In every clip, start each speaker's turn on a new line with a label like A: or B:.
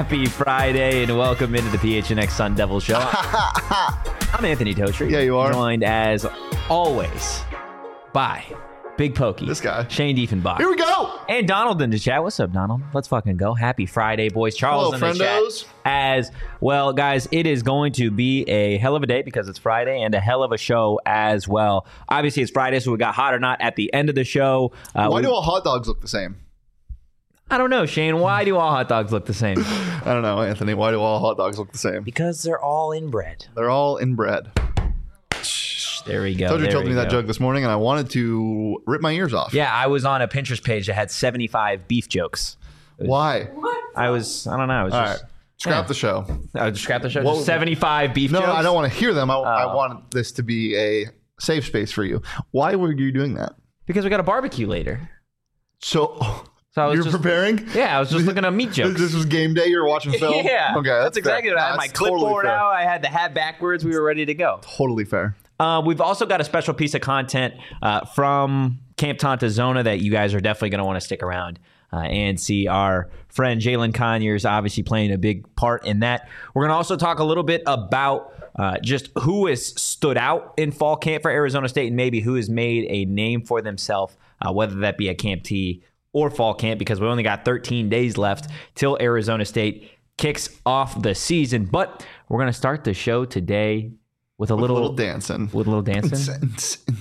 A: Happy Friday and welcome into the PHNX Sun Devil Show. I'm Anthony Totri.
B: Yeah, you are.
A: Joined as always by Big Pokey.
B: This guy.
A: Shane Diefenbach.
B: Here we go.
A: And Donald in the chat. What's up, Donald? Let's fucking go. Happy Friday, boys. Charles
B: Hello,
A: in the
B: friendos.
A: chat. As well, guys, it is going to be a hell of a day because it's Friday and a hell of a show as well. Obviously, it's Friday, so we got Hot or Not at the end of the show.
B: Why do all hot dogs look the same?
A: I don't know, Shane. Why do all hot dogs look the same?
B: I don't know, Anthony. Why do all hot dogs look the same?
A: Because they're all inbred.
B: They're all inbred.
A: There we go.
B: Told me that joke this morning, and I wanted to rip my ears off.
A: Yeah, I was on a Pinterest page that had 75 beef jokes.
B: Why?
A: I don't know. I was
B: All
A: just...
B: right. Scrap the show.
A: I just scrap the show.
B: What-
A: Just 75 beef
B: No,
A: jokes?
B: I don't want to hear them. I want this to be a safe space for you. Why were you doing that?
A: Because we got a barbecue later.
B: So
A: So I was
B: you're
A: just...
B: preparing?
A: Yeah, I was just looking at meat jokes.
B: This was game day. You're watching film?
A: Yeah.
B: Okay.
A: That's exactly
B: fair.
A: what I had. My
B: That's totally
A: clipboard
B: fair.
A: out. I had the hat backwards. We were ready to go.
B: Totally fair.
A: We've also got a special piece of content from Camp Tantazona that you guys are definitely going to want to stick around and see. Our friend Jalen Conyers obviously playing a big part in that. We're going to also talk a little bit about just who has stood out in fall camp for Arizona State and maybe who has made a name for themselves, whether that be at Camp T or fall camp, because we only got 13 days left till Arizona State kicks off the season. But we're going to start the show today with a little
B: dancing.
A: With a little dancing?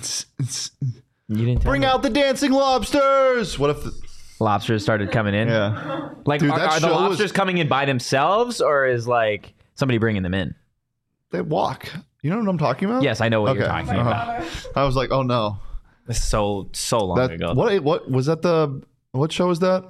A: You didn't tell
B: Bring
A: me.
B: out the dancing lobsters. What if
A: Lobsters started coming in?
B: yeah.
A: Like,
B: Dude, that
A: are the
B: show was-
A: lobsters coming in by themselves, or is like somebody bringing them in?
B: They walk. You know what I'm talking about?
A: Yes, I know what you're
B: Okay.
A: talking about.
B: I was like, oh no.
A: It's so long
B: That
A: ago.
B: what was that what show was that?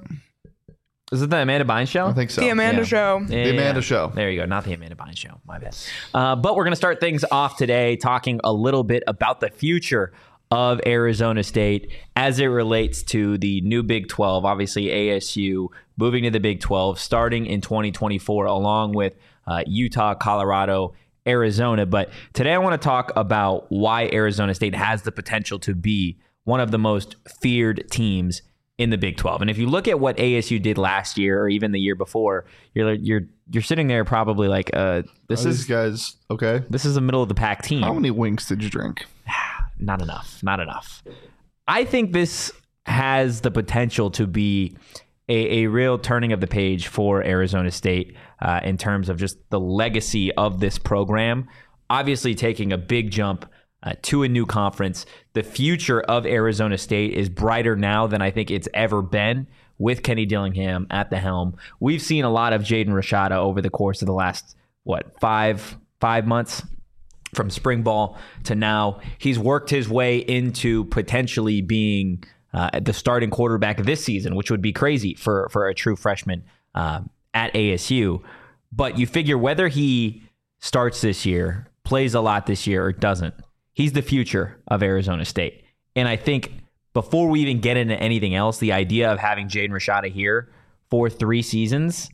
A: Is it the Amanda Bynes show?
B: I think so.
C: The Amanda
A: Yeah.
C: Show.
A: Yeah,
B: The Amanda Show.
A: There you go. Not the Amanda Bynes Show. My bad. But we're going to start things off today talking a little bit about the future of Arizona State as it relates to the new Big 12. Obviously, ASU moving to the Big 12 starting in 2024 along with Utah, Colorado, Arizona. But today I want to talk about why Arizona State has the potential to be one of the most feared teams in the Big 12. And if you look at what ASU did last year or even the year before, you're sitting there probably like this
B: These
A: is
B: guys okay.
A: this is a middle of the pack team.
B: How many winks did you drink?
A: Not enough. I think this has the potential to be a real turning of the page for Arizona State in terms of just the legacy of this program. Obviously taking a big jump to a new conference. The future of Arizona State is brighter now than I think it's ever been with Kenny Dillingham at the helm. We've seen a lot of Jaden Rashada over the course of the last, five months? From spring ball to now, he's worked his way into potentially being the starting quarterback this season, which would be crazy for a true freshman at ASU. But you figure whether he starts this year, plays a lot this year, or doesn't, he's the future of Arizona State. And I think before we even get into anything else, the idea of having Jaden Rashada here for 3 seasons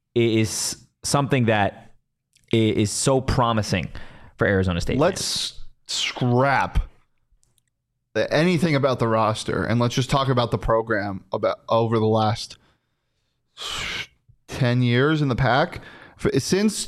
A: is something that is so promising for Arizona State.
B: Let's scrap anything about the roster and let's just talk about the program about over the last 10 years in the pack. Since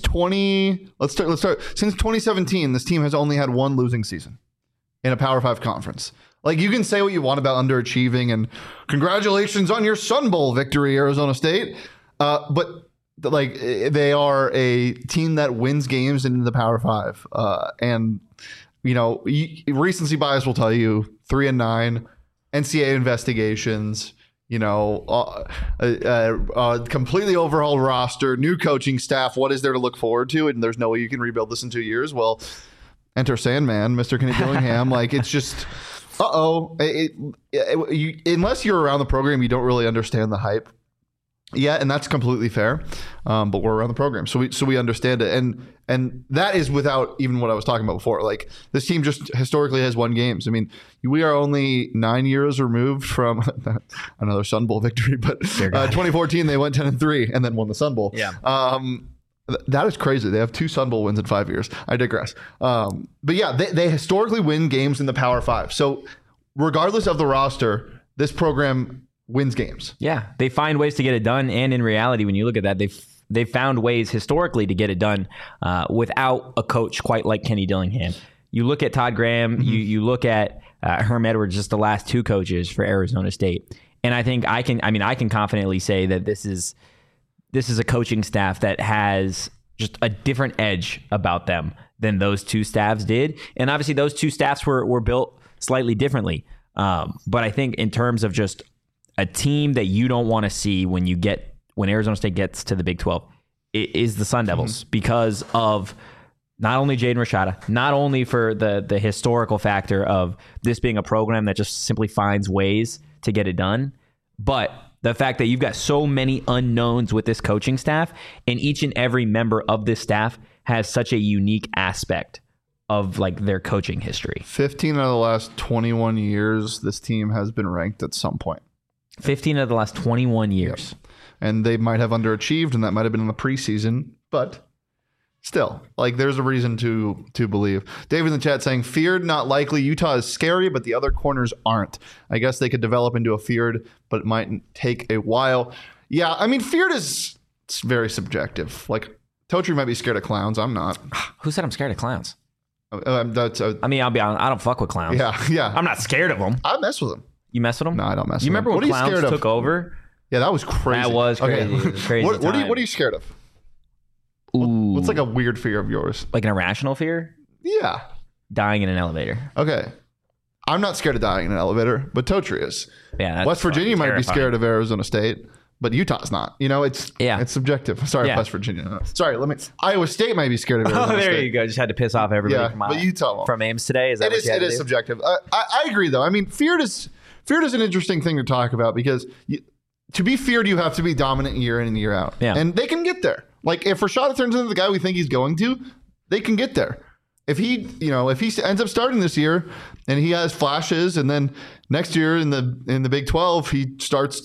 B: 2017, this team has only had one losing season in a Power 5 conference. Like, you can say what you want about underachieving and congratulations on your Sun Bowl victory, Arizona State. But like, they are a team that wins games in the Power 5. And, you know, recency bias will tell you 3-9, NCAA investigations, you know, completely overhauled roster, new coaching staff. What is there to look forward to? And there's no way you can rebuild this in 2 years. Well, enter Sandman, Mr. Kenny Dillingham. Like, it's just, unless you're around the program, you don't really understand the hype. Yeah, and that's completely fair. But we're around the program, so we understand it, and that is without even what I was talking about before. Like, this team just historically has won games. I mean, we are only 9 years removed from another Sun Bowl victory, but 2014 they went 10-3 and then won the Sun Bowl.
A: Yeah.
B: That is crazy. They have 2 Sun Bowl wins in 5 years. I digress. But yeah, they historically win games in the Power 5. So regardless of the roster, this program wins games.
A: Yeah, they find ways to get it done. And in reality, when you look at that, they've found ways historically to get it done without a coach quite like Kenny Dillingham. You look at Todd Graham, you look at Herm Edwards, just the last two coaches for Arizona State. And I think I can confidently say that this is a coaching staff that has just a different edge about them than those two staffs did. And obviously those two staffs were built slightly differently. But I think in terms of just a team that you don't want to see when Arizona State gets to the Big 12, it is the Sun Devils because of not only Jaden Rashada, not only for the historical factor of this being a program that just simply finds ways to get it done, but the fact that you've got so many unknowns with this coaching staff, and each and every member of this staff has such a unique aspect of like their coaching history.
B: 15 out of the last 21 years, this team has been ranked at some point.
A: 15 of the last 21 years.
B: Yep. And they might have underachieved, and that might have been in the preseason, but still, like, there's a reason to believe. Dave in the chat saying, feared, not likely. Utah is scary, but the other corners aren't. I guess they could develop into a feared, but it might take a while. Yeah, I mean, feared is very subjective. Like, Totri might be scared of clowns. I'm not.
A: Who said I'm scared of clowns?
B: I
A: mean, I'll be honest. I don't fuck with clowns.
B: Yeah.
A: I'm not scared of them.
B: I mess with them.
A: You mess with them?
B: No, I don't mess with them.
A: You remember when clowns took over?
B: Yeah, that was crazy.
A: That was crazy.
B: Okay.
A: It was crazy.
B: What are you scared of?
A: Ooh.
B: What's like a weird fear of yours?
A: Like an irrational fear?
B: Yeah.
A: Dying in an elevator.
B: Okay. I'm not scared of dying in an elevator, but Totri is.
A: Yeah.
B: West Virginia might be scared of Arizona State, but Utah's not. You know, it's subjective. Sorry, West Virginia. Sorry, Iowa State might be scared of Arizona State.
A: Oh, there you go. Just had to piss off everybody
B: but Utah
A: from Ames today. It
B: is subjective. I agree, though. I mean, feared is an interesting thing to talk about because to be feared, you have to be dominant year in and year out.
A: Yeah.
B: And they can get there. Like, if Rashada turns into the guy we think he's going to, they can get there. If he ends up starting this year and he has flashes, and then next year in the Big 12 he starts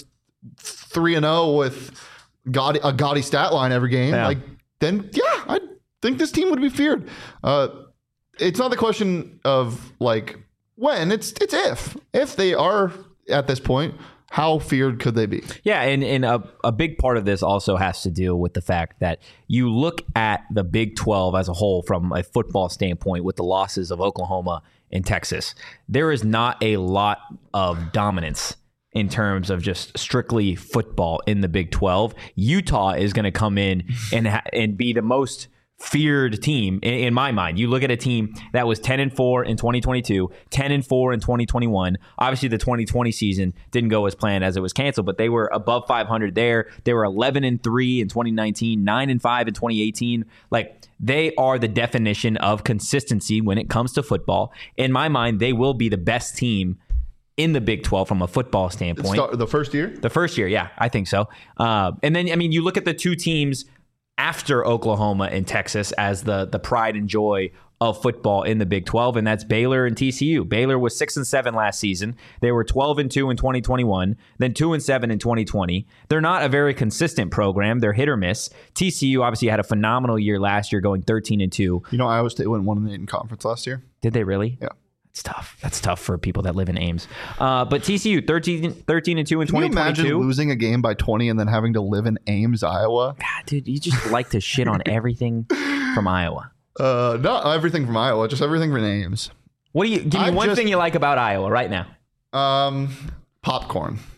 B: 3-0 with a gaudy stat line every game, then I think this team would be feared. It's not the question of like when, it's if they are at this point. How feared could they be?
A: Yeah, and a big part of this also has to deal with the fact that you look at the Big 12 as a whole from a football standpoint with the losses of Oklahoma and Texas. There is not a lot of dominance in terms of just strictly football in the Big 12. Utah is going to come in and be the most feared team in my mind. You look at a team that was 10-4 in 2022, 10-4 in 2021. Obviously, the 2020 season didn't go as planned as it was canceled, but they were above 500 there. They were 11-3 in 2019, 9-5 in 2018. Like, they are the definition of consistency when it comes to football. In my mind, they will be the best team in the Big 12 from a football standpoint.
B: The first year?
A: The first year, yeah, I think so. And then, I mean, you look at the two teams after Oklahoma and Texas as the pride and joy of football in the Big 12, and that's Baylor and TCU. Baylor was 6-7 last season. They were 12-2 in 2021, then 2-7 in 2020. They're not a very consistent program. They're hit or miss. TCU obviously had a phenomenal year last year, going 13-2.
B: You know, Iowa State went 1-8 in conference last year.
A: Did they really?
B: Yeah.
A: It's tough. That's tough for people that live in Ames. But TCU, 13-2 in 2022.
B: Can you imagine losing a game by 20 and then having to live in Ames, Iowa?
A: God, dude, you just like to shit on everything from Iowa.
B: Not everything from Iowa, just everything from Ames.
A: Give me one thing you like about Iowa right now.
B: Popcorn.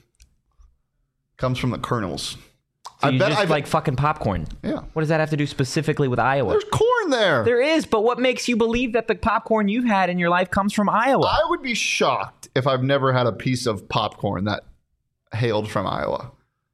B: Comes from the kernels.
A: So I bet like fucking popcorn.
B: Yeah.
A: What does that have to do specifically with Iowa?
B: There's corn there.
A: There is, but what makes you believe that the popcorn you've had in your life comes from Iowa?
B: I would be shocked if I've never had a piece of popcorn that hailed from Iowa.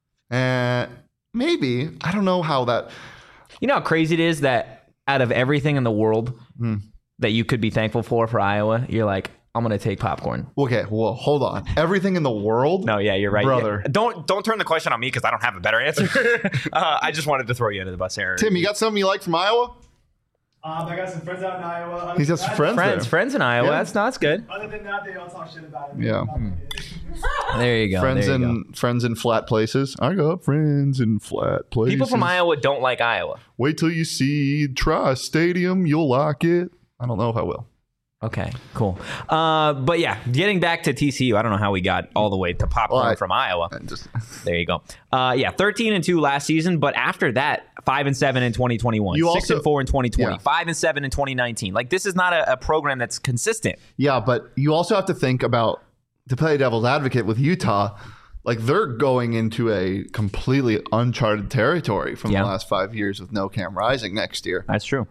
B: Maybe. I don't know how that...
A: You know how crazy it is that out of everything in the world that you could be thankful for Iowa, you're like, I'm going to take popcorn.
B: Okay, well, hold on. Everything in the world?
A: No, yeah, you're right.
B: Brother.
A: Yeah. Don't turn the question on me because I don't have a better answer. I just wanted to throw you under the bus here.
B: Tim, you got something you like from Iowa?
C: I got some friends out in Iowa.
B: He's got some
A: friends in Iowa.
B: Yeah.
A: That's good.
C: Other than that, they all talk shit about it.
B: Yeah.
A: There you go.
B: Friends in flat places. I got friends in flat places.
A: People from Iowa don't like Iowa.
B: Wait till you see Tri Stadium. You'll like it. I don't know if I will.
A: Okay, cool. But yeah, getting back to TCU, I don't know how we got all the way to popcorn from Iowa. There you go. 13-2 last season, but after that, 5-7 in 2021, 6-4 in 2020, 5-7 in 2019. Like, this is not a program that's consistent.
B: Yeah, but you also have to think about, to play devil's advocate with Utah, like they're going into a completely uncharted territory from the last 5 years with no Cam Rising next year.
A: That's true.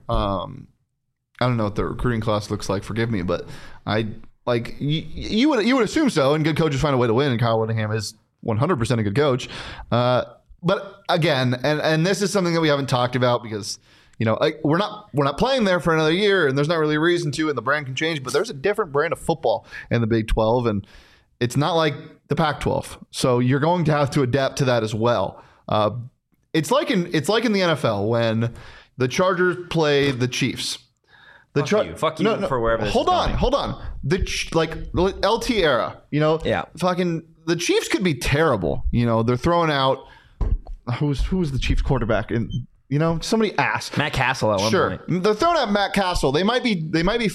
B: I don't know what the recruiting class looks like. Forgive me, but you would assume so. And good coaches find a way to win. And Kyle Whittingham is 100% a good coach. But again, and this is something that we haven't talked about because we're not playing there for another year, and there's not really a reason to. And the brand can change, but there's a different brand of football in the Big 12, and it's not like the Pac-12. So you're going to have to adapt to that as well. It's like in the NFL when the Chargers play the Chiefs.
A: Fuck you for wherever this
B: hold on. The LT era, fucking the Chiefs could be terrible. They're throwing out who was the Chiefs quarterback, and somebody asked
A: Matt Castle at one point.
B: They're throwing out Matt Castle. They might be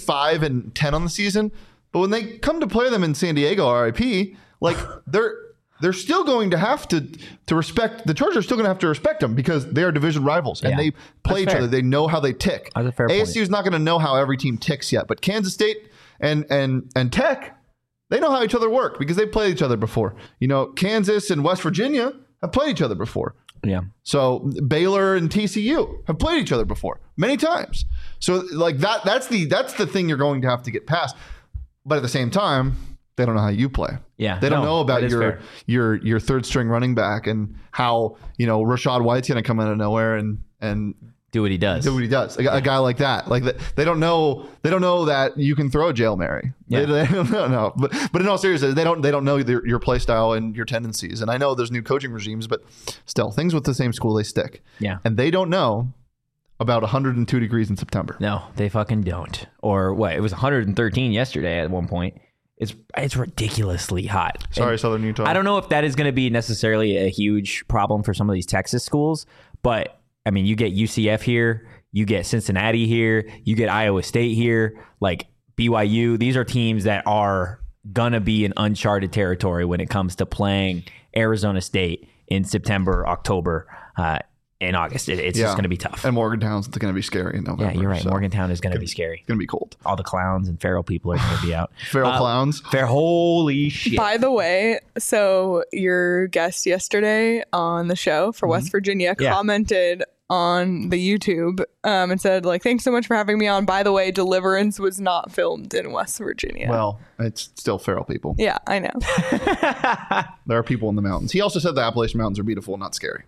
B: 5-10 on the season, but when they come to play them in San Diego, RIP, like they're still going to have to respect the Chargers. Are still going to have to respect them because they are division rivals and they play each other. They know how they tick.
A: That's a fair
B: ASU is not going to know how every team ticks yet, but Kansas State and Tech, they know how each other work because they've played each other before. Kansas and West Virginia have played each other before.
A: Yeah.
B: So Baylor and TCU have played each other before many times. So like that's the thing you're going to have to get past. But at the same time, they don't know how you play.
A: Yeah,
B: they don't know about your third string running back and how Rashad White's going to come out of nowhere and
A: do what he does.
B: A guy like that, they don't know that you can throw a Jail Mary.
A: Yeah.
B: They don't know. But in all seriousness, they don't know your play style and your tendencies. And I know there's new coaching regimes, but still, things with the same school, they stick.
A: Yeah,
B: and they don't know about 102 degrees in September.
A: No, they fucking don't. Or what? It was 113 yesterday at one point. It's ridiculously hot.
B: Sorry, Southern Utah.
A: I don't know if that is going to be necessarily a huge problem for some of these Texas schools, but I mean, you get UCF here, you get Cincinnati here, you get Iowa State here, like BYU. These are teams that are going to be in uncharted territory when it comes to playing Arizona State in September, October, in August. It's just going to be tough.
B: And Morgantown's going to be scary in November.
A: Yeah, you're right. So Morgantown is going to be scary.
B: It's going to be cold.
A: All the clowns and feral people are going to be out.
B: Feral clowns?
A: Holy shit.
D: By the way, so your guest yesterday on the show for West Virginia commented on the YouTube and said, thanks so much for having me on. By the way, Deliverance was not filmed in West Virginia.
B: Well, it's still feral people.
D: Yeah, I know.
B: There are people in the mountains. He also said the Appalachian Mountains are beautiful and not scary.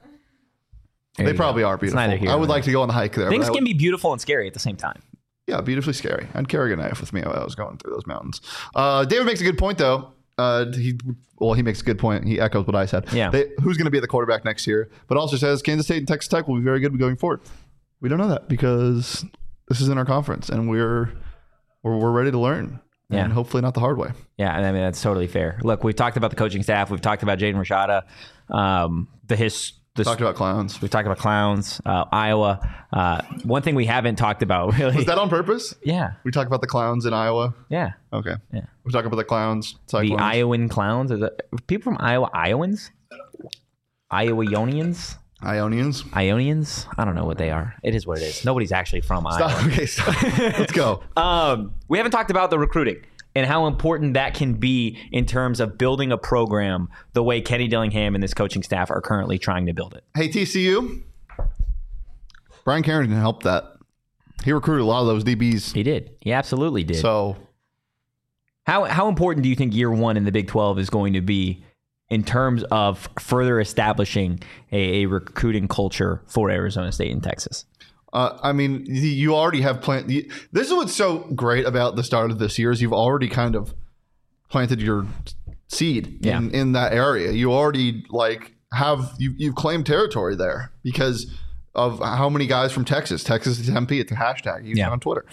B: They probably are beautiful. I would like to go on the hike there.
A: Things can be beautiful and scary at the same time.
B: Yeah, beautifully scary. I'd carry a knife with me while I was going through those mountains. David makes a good point, though. He makes a good point. He echoes what I said.
A: Yeah.
B: Who's going to be the quarterback next year? But also says Kansas State and Texas Tech will be very good going forward. We don't know that because this is in our conference and we're ready to learn.
A: Yeah.
B: And hopefully not the hard way.
A: Yeah, I mean, that's totally fair. Look, we've talked about the coaching staff. We've talked about Jaden Rashada.
B: Talked about clowns.
A: We've talked about clowns. Iowa. One thing we haven't talked about really.
B: Was that on purpose?
A: Yeah.
B: We talked about the clowns in Iowa.
A: Yeah.
B: Okay.
A: Yeah.
B: We talk about the clowns. Cyclones.
A: The Iowan clowns. Is it people from Iowa? Iowans? Ionians? Ionians? I don't know what they are. It is what it is. Nobody's actually from Iowa.
B: Okay, stop. Let's go.
A: We haven't talked about the recruiting and how important that can be in terms of building a program the way Kenny Dillingham and this coaching staff are currently trying to build it.
B: Hey, TCU. Brian Carrington helped that. He recruited a lot of those DBs.
A: He did. He absolutely did.
B: So
A: how important do you think year one in the Big 12 is going to be in terms of further establishing a recruiting culture for Arizona State and Texas?
B: I mean, you already have planted. This is what's so great about the start of this year is you've already kind of planted your seed in that area. You already you've claimed territory there because of how many guys from Texas is MP. It's a hashtag you on Twitter.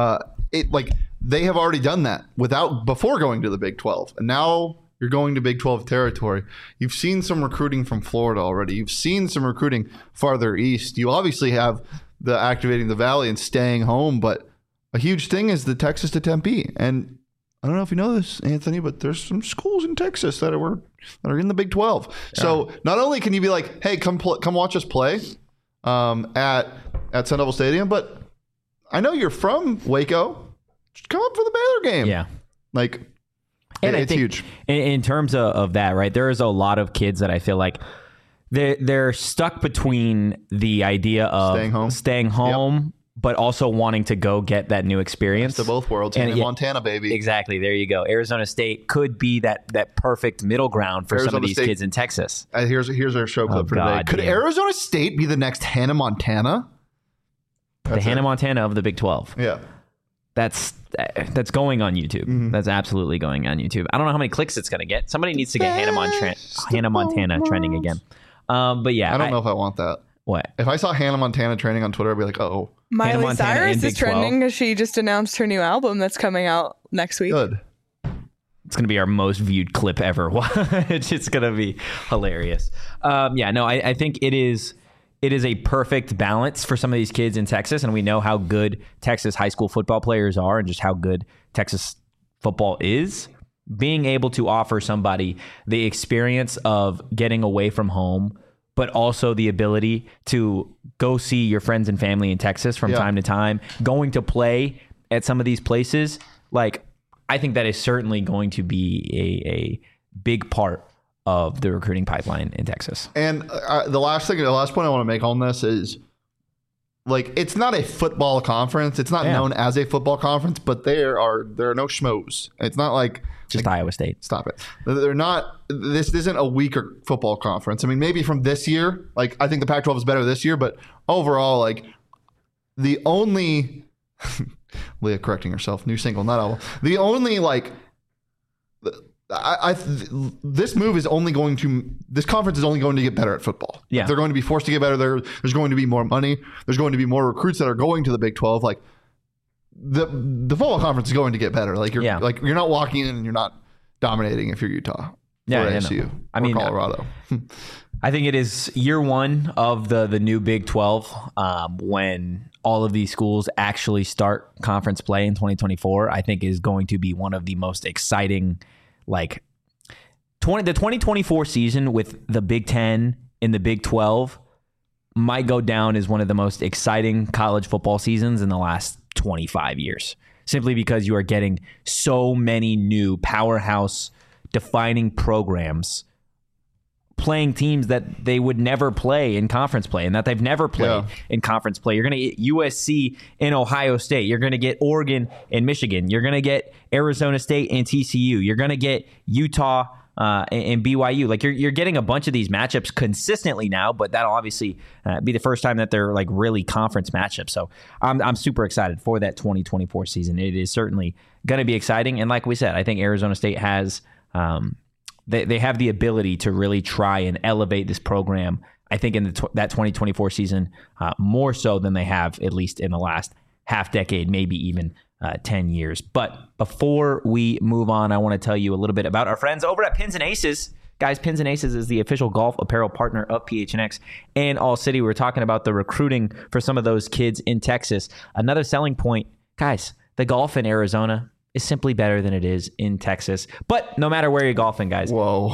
B: They have already done that before going to the Big 12, and now you're going to Big 12 territory. You've seen some recruiting from Florida already. You've seen some recruiting farther east. You obviously have the activating the Valley and staying home, but a huge thing is the Texas to Tempe. And I don't know if you know this, Anthony, but there's some schools in Texas that are in the Big 12. Yeah. So not only can you be like, hey, come watch us play at Sun Devil Stadium, but I know you're from Waco. Just come up for the Baylor game.
A: Yeah.
B: Like,
A: and
B: it's huge.
A: In terms of that, right, there is a lot of kids that I feel like they're stuck between the idea of staying home, but also wanting to go get that new experience.
B: Best of both worlds. And in Montana, baby.
A: Exactly. There you go. Arizona State could be that perfect middle ground for some of these kids in Texas.
B: Here's our show clip for today. Could Arizona State be the next Hannah Montana?
A: The Hannah Montana of the Big 12.
B: Yeah.
A: That's going on YouTube. Mm-hmm. That's absolutely going on YouTube. I don't know how many clicks it's going to get. Somebody needs to get Hannah Montana trending again. But yeah.
B: I don't know if I want that.
A: What?
B: If I saw Hannah Montana trending on Twitter, I'd be like, oh.
D: Miley Cyrus is trending because she just announced her new album that's coming out next week.
B: Good.
A: It's going to be our most viewed clip ever. It's just going to be hilarious. I think it is a perfect balance for some of these kids in Texas, and we know how good Texas high school football players are and just how good Texas football is. Being able to offer somebody the experience of getting away from home, but also the ability to go see your friends and family in Texas from time to time, going to play at some of these places, like, I think that is certainly going to be a big part of the recruiting pipeline in Texas.
B: And the last point I want to make on this is, like, it's not a football conference. It's not known as a football conference, but there are no schmoes. It's not like
A: just Iowa State.
B: Stop it. They're not. This isn't a weaker football conference. I mean, maybe from this year, like, I think the Pac-12 is better this year, but overall, like, the only Leah correcting herself, new single, not album. The only, like, this move is only going to, this conference is only going to get better at football.
A: Yeah.
B: They're going to be forced to get better. There's going to be more money. There's going to be more recruits that are going to the Big 12. Like, the football conference is going to get better. Like, you're not walking in and you're not dominating if you're Utah or ASU or Colorado.
A: I think it is year one of the new Big 12 when all of these schools actually start conference play in 2024. I think is going to be one of the most exciting, like, the 2024 season with the Big 10 and the Big 12 might go down as one of the most exciting college football seasons in the last 25 years, simply because you are getting so many new powerhouse defining programs playing teams that they would never play in conference play and that they've never played in conference play. You're going to get USC and Ohio State. You're going to get Oregon and Michigan. You're going to get Arizona State and TCU. You're going to get Utah and BYU. Like, you're getting a bunch of these matchups consistently now, but that'll obviously be the first time that they're, like, really conference matchups. So I'm super excited for that 2024 season. It is certainly going to be exciting. And like we said, I think Arizona State has they have the ability to really try and elevate this program, I think, in that 2024 season more so than they have, at least in the last half decade, maybe even 10 years. But before we move on, I want to tell you a little bit about our friends over at Pins and Aces. Guys, Pins and Aces is the official golf apparel partner of PHNX and All City. We're talking about the recruiting for some of those kids in Texas. Another selling point, guys, the golf in Arizona is simply better than it is in Texas. But no matter where you're golfing, guys.
B: Whoa,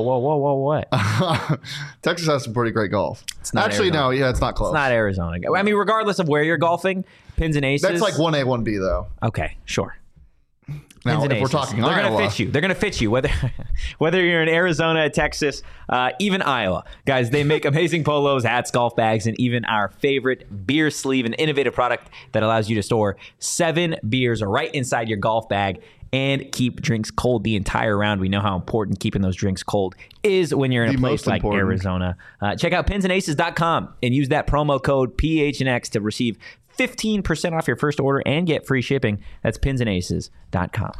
A: what?
B: Texas has some pretty great golf.
A: It's not
B: actually,
A: Arizona.
B: no, yeah, it's not close.
A: It's not Arizona. I mean, regardless of where you're golfing, Pins and Aces.
B: That's like 1A, 1B, though.
A: Okay, sure.
B: Now, if we're talking
A: They're
B: Iowa,
A: they're going to fit you, whether you're in Arizona, Texas, even Iowa. Guys, they make amazing polos, hats, golf bags, and even our favorite beer sleeve, an innovative product that allows you to store 7 beers right inside your golf bag and keep drinks cold the entire round. We know how important keeping those drinks cold is when you're in a place like Arizona. Check out pinsandaces.com and use that promo code PHNX to receive 15% off your first order and get free shipping. That's pinsandaces.com.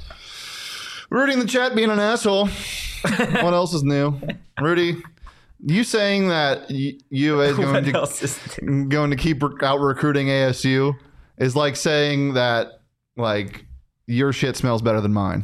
B: Rudy in the chat being an asshole. What else is new? Rudy, you saying that UA is going to keep out recruiting ASU is like saying that, like, your shit smells better than mine.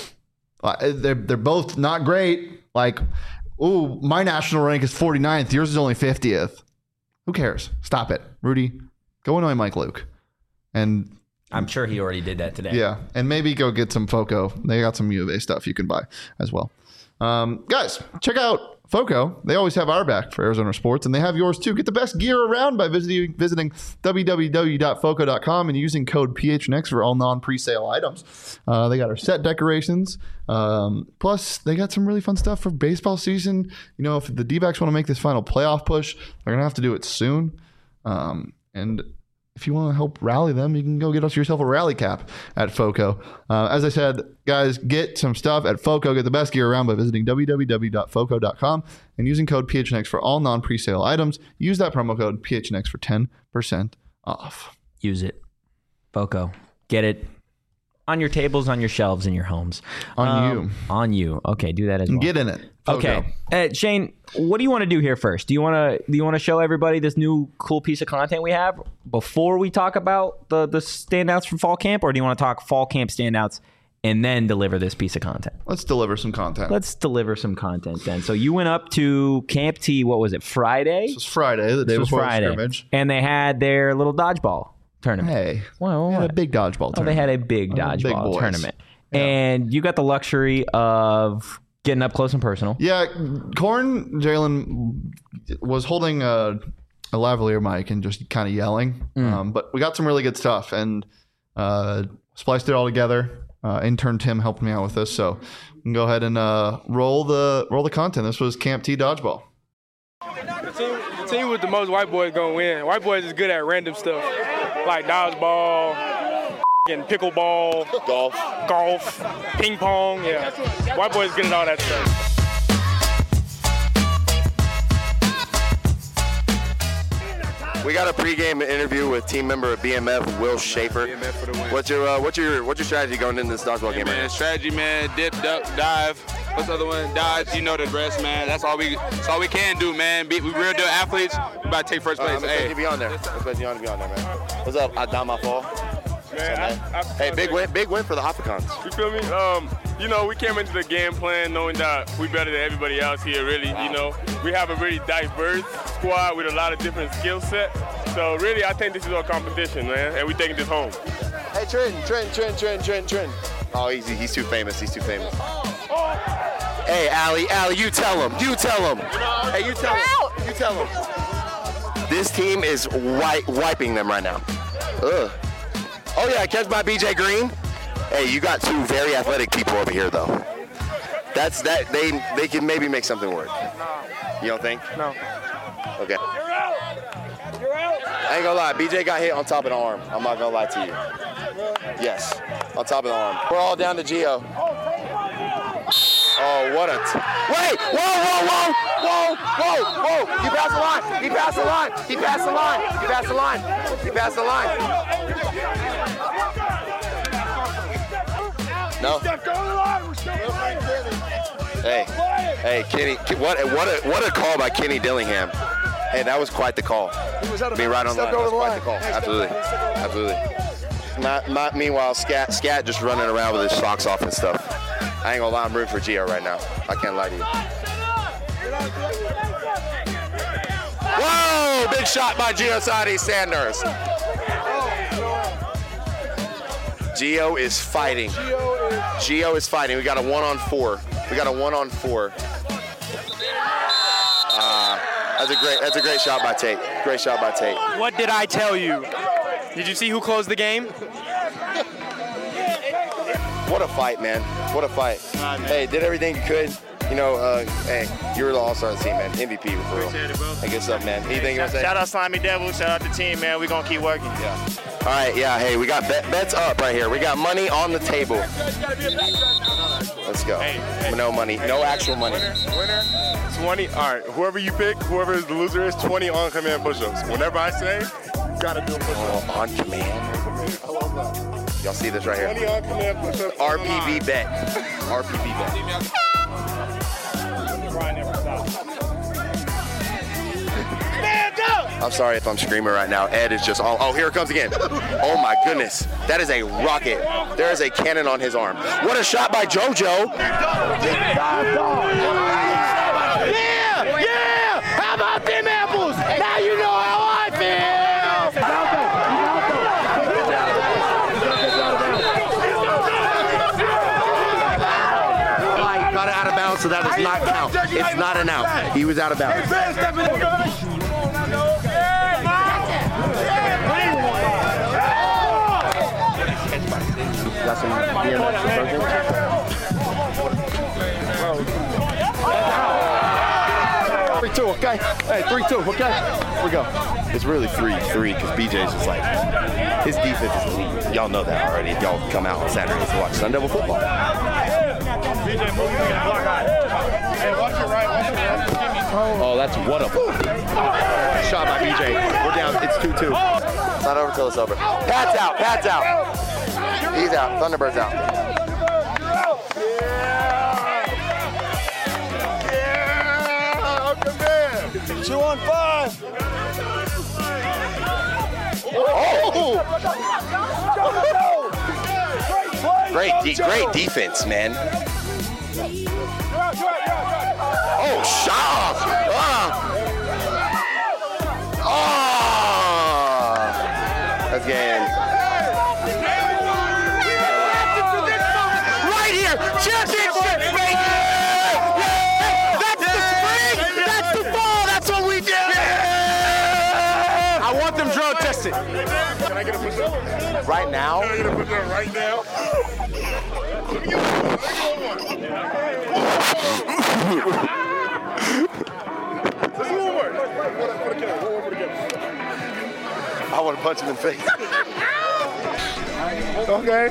B: They're both not great. Like, ooh, my national rank is 49th. Yours is only 50th. Who cares? Stop it. Rudy, go annoy Mike Luke. And
A: I'm sure he already did that today.
B: Yeah, and maybe go get some FOCO. They got some U of A stuff you can buy as well. Guys, check out FOCO. They always have our back for Arizona sports, and they have yours too. Get the best gear around by visiting www.foco.com and using code PHNX for all non-presale items. They got our set decorations. Plus, they got some really fun stuff for baseball season. You know, if the D-backs want to make this final playoff push, they're going to have to do it soon. And if you want to help rally them, you can go get yourself a rally cap at FOCO. As I said, guys, get some stuff at FOCO. Get the best gear around by visiting www.foco.com and using code PHNX for all non-presale items. Use that promo code PHNX for 10% off.
A: Use it. FOCO. Get it on your tables, on your shelves, in your homes.
B: On
A: you. Okay, do that as well.
B: Get in it. FOCO.
A: Okay. Shane, what do you want to do here first? Do you want to show everybody this new cool piece of content we have before we talk about the standouts from fall camp, or do you want to talk fall camp standouts and then deliver this piece of content?
B: Let's deliver some content.
A: Let's deliver some content then. So you went up to Camp T, what was it, Friday?
B: This was Friday, the day before the scrimmage.
A: And they had their little dodgeball tournament.
B: Hey,
A: well,
B: they had a big dodgeball tournament.
A: They had a big dodgeball tournament. Yeah. And you got the luxury of getting up close and personal.
B: Yeah, Jalen was holding a lavalier mic and just kind of yelling. But we got some really good stuff and spliced it all together. Intern Tim helped me out with this, so we can go ahead and roll the content. This was Camp T dodgeball.
E: The team with the most white boys gonna win. White boys is good at random stuff like dodgeball, and pickleball, golf, ping pong. Yeah, white boys good at all that stuff.
F: We got a pregame interview with team member of BMF, Will Schaefer. What's your strategy going into this dodgeball game?
G: Man, strategy, man. Dip, duck, dive. What's the other one? Dodge. You know the rest, man. That's all we can do, man. We real deal athletes. We about to take first place.
F: I'm expecting you to be on there. Man. What's up? Adama Fall.
E: Man,
F: hey, big win for the Hopicons.
E: You feel me? You know, we came into the game plan knowing that we better than everybody else here, really. Wow. You know, we have a really diverse squad with a lot of different skill sets. So really, I think this is our competition, man, and we taking this home.
F: Hey, Trent. Oh, he's too famous. Hey, Allie, you tell him. Hey, you tell him. This team is wiping them right now. Ugh. Oh yeah, catch by BJ Green. Hey, you got two very athletic people over here though. That's that they can maybe make something work. You don't think?
E: No.
F: Okay. You're out. I ain't gonna lie, BJ got hit on top of the arm. I'm not gonna lie to you. Yes, on top of the arm. We're all down to Gio. Oh, what a wait! Whoa! You passed the line! He passed the line! No. Hey, Kenny! What a call by Kenny Dillingham! Hey, that was quite the call. Be right on the line. That was quite the call. Absolutely. Meanwhile, Scat just running around with his socks off and stuff. I ain't gonna lie, I'm rooting for Gio right now. I can't lie to you. Whoa! Big shot by Giosati Sanders. Gio is fighting. We got a 1-on-4. That's a great shot by Tate.
H: What did I tell you? Did you see who closed the game?
F: What a fight, man. Hey, did everything you could. You know, hey, you were the all-star of the team, man. MVP for real.
H: Appreciate it, bro.
F: Hey, good stuff, man. Anything you want to say?
H: Shout out Slimy Devil. Shout out the team, man. We're going to keep working.
F: Yeah. All right, yeah. Hey, we got bets up right here. We got money on the table. Let's go. Hey. No money. No actual money.
E: Winner, 20. All right, whoever you pick, whoever the loser is, 20 on-command push-ups. Whenever I say, you got to do a push-up.
F: Oh, on command. I love that. Y'all see this right here?
E: 20 on-command push-ups.
F: RPB bet. I'm sorry if I'm screaming right now. Ed is just oh, here it comes again. Oh my goodness. That is a rocket. There is a cannon on his arm. What a shot by JoJo. Yeah! How about them apples? Now you know how I feel. so that does not count. It's not an out. He was out of bounds. Got some BMX 3-2, okay? Hey, 3-2, okay? Here we go. It's really 3-3 because BJ's just like, his defense is elite. Y'all know that already if y'all come out on Saturdays to watch Sun Devil football. Oh, that's what a shot by BJ. We're down. It's 2-2. It's not over till it's over. Pat's out. Pat's out. He's out. Thunderbird's out. Yeah, come in. 2 on 5. Oh! Great defense, man. Oh, shot! That's game. Right here, championship, baby! That's the spring, that's the fall, that's what we do!
H: I want them drug tested.
F: Can I get a push-up? Right now? Can I get a push-up right now? I want to punch him in the face. Okay.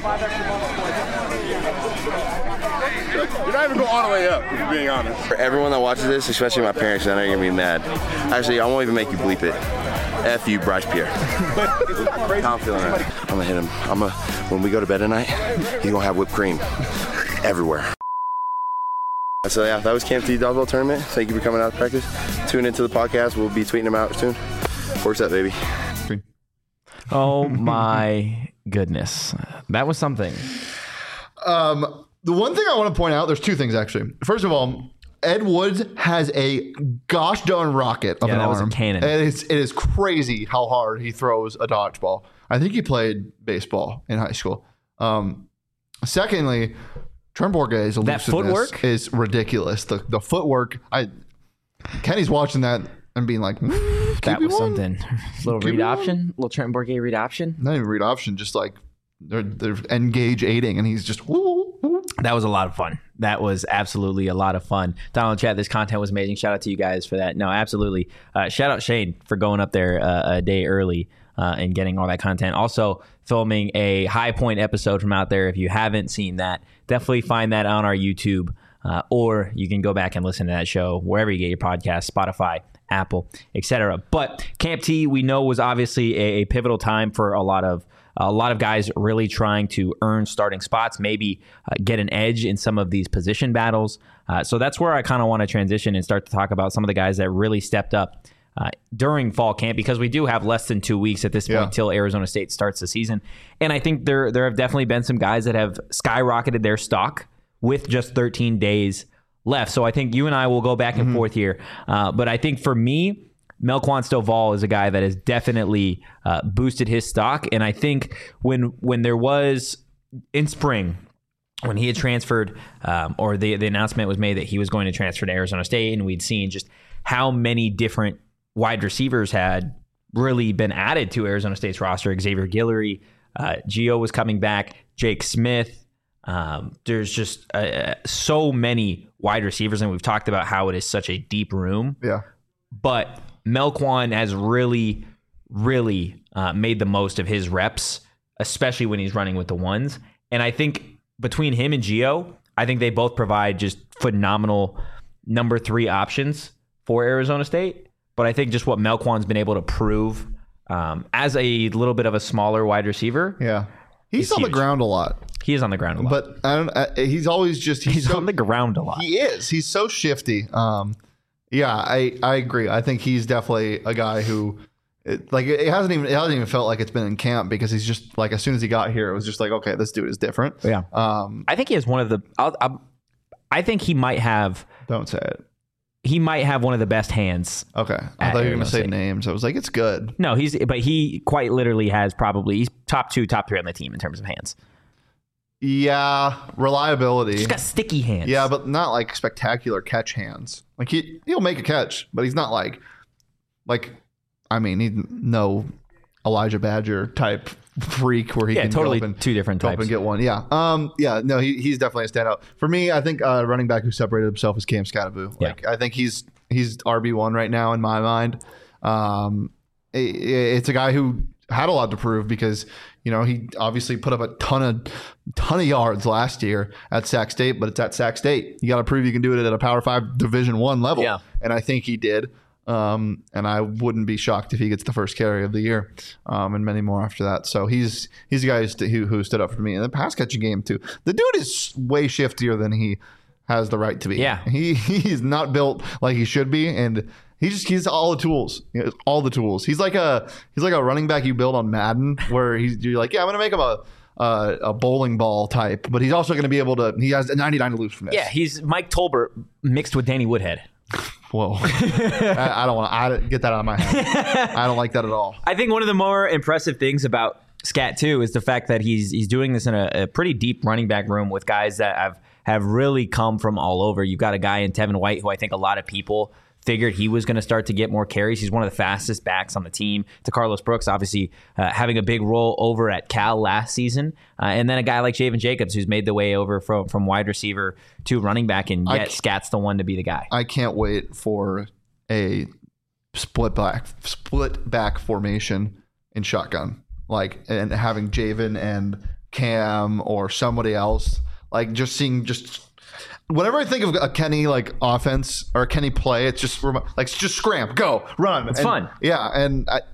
F: You're not even going all the way up, if you're being honest. For everyone that watches this, especially my parents, I know you're going to be mad. Actually, I won't even make you bleep it. F you, Bryce Pierre. How I'm feeling right. I'm going to hit him. When we go to bed tonight, he's going to have whipped cream everywhere. So yeah, that was Camp T Dodgeball Tournament. Thank you for coming out to practice. Tune into the podcast. We'll be tweeting them out soon. Works up, baby.
A: Oh my goodness. That was something.
B: The one thing I want to point out, there's two things actually. First of all, Ed Woods has a gosh darn rocket of an arm.
A: Was a cannon.
B: It is crazy how hard he throws a dodgeball. I think he played baseball in high school. Secondly, Trent Bourguet's elusiveness
A: footwork
B: is ridiculous. The footwork. Kenny's watching that and being like,
A: that was something. Little read option, little Trent Bourguet read option.
B: Not even read option, just like they're engage aiding, and he's just.
A: That was a lot of fun. That was absolutely a lot of fun. Donald chat, this content was amazing. Shout out to you guys for that. No, absolutely. Shout out Shane for going up there a day early and getting all that content. Also filming a High Point episode from out there. If you haven't seen that, definitely find that on our YouTube, or you can go back and listen to that show wherever you get your podcasts, Spotify, Apple, etc. But Camp T, we know, was obviously a pivotal time for a lot of guys really trying to earn starting spots, maybe get an edge in some of these position battles. So that's where I kind of want to transition and start to talk about some of the guys that really stepped up during fall camp, because we do have less than 2 weeks at this point till Arizona State starts the season. And I think there have definitely been some guys that have skyrocketed their stock with just 13 days left. So I think you and I will go back and forth here. But I think for me, Melquan Stovall is a guy that has definitely boosted his stock. And I think when there was in spring, when he had transferred, or the announcement was made that he was going to transfer to Arizona State, and we'd seen just how many different wide receivers had really been added to Arizona State's roster. Xavier Guillory, Gio was coming back, Jake Smith. There's just so many wide receivers, and we've talked about how it is such a deep room.
B: Yeah.
A: But Melquan has really, really made the most of his reps, especially when he's running with the ones. And I think between him and Gio, I think they both provide just phenomenal number 3 options for Arizona State. But I think just what Melquan's been able to prove as a little bit of a smaller wide receiver.
B: Yeah. He's on the ground a lot.
A: He is on the ground a lot.
B: But he's always just...
A: He's on the ground a lot.
B: He is. He's so shifty. Yeah, I agree. I think he's definitely a guy who... It hasn't even felt like it's been in camp, because he's just like, as soon as he got here, it was just like, okay, this dude is different.
A: Yeah. I think he has one of the... I think he might have...
B: Don't say it.
A: He might have one of the best hands.
B: Okay. I thought you were going to say names. I was like, it's good.
A: No, he quite literally has probably... He's top 2, top 3 on the team in terms of hands.
B: Yeah, reliability.
A: He's got sticky hands.
B: Yeah, but not like spectacular catch hands. Like he'll make a catch, but he's not like I mean, he's no Elijah Badger type freak where he can
A: totally
B: go up and,
A: two different
B: go up
A: types.
B: and get one. Yeah. No, he's definitely a standout. For me, I think running back who separated himself is Cam Scatteraboo.
A: Yeah.
B: Like I think he's RB1 right now in my mind. It's a guy who had a lot to prove because he obviously put up a ton of yards last year at Sac State, but it's at Sac State. You got to prove you can do it at a Power 5 Division I level.
A: Yeah.
B: And I think he did. And I wouldn't be shocked if he gets the first carry of the year, and many more after that. So he's a guy who stood up for me in the pass catching game too. The dude is way shiftier than he has the right to be.
A: Yeah,
B: he's not built like he should be, and he's all the tools. All the tools. He's like a running back you build on Madden, where you're like, yeah, I'm gonna make him a bowling ball type, but he's also gonna be able to. He has a 99 aloofness.
A: Yeah, he's Mike Tolbert mixed with Danny Woodhead.
B: Whoa. I don't want to get that out of my head. I don't like that at all.
A: I think one of the more impressive things about Scat too is the fact that he's doing this in a pretty deep running back room with guys that have really come from all over. You've got a guy in Tevin White who I think a lot of people figured he was going to start to get more carries. He's one of the fastest backs on the team. To Carlos Brooks, obviously having a big role over at Cal last season. And then a guy like Javen Jacobs, who's made the way over from wide receiver to running back, and yet Scat's the one to be the guy.
B: I can't wait for a split back formation in shotgun, and having Javen and Cam or somebody else, whenever I think of a Kenny offense or a Kenny play, it's just scram, go, run.
A: It's fun.
B: Yeah, and a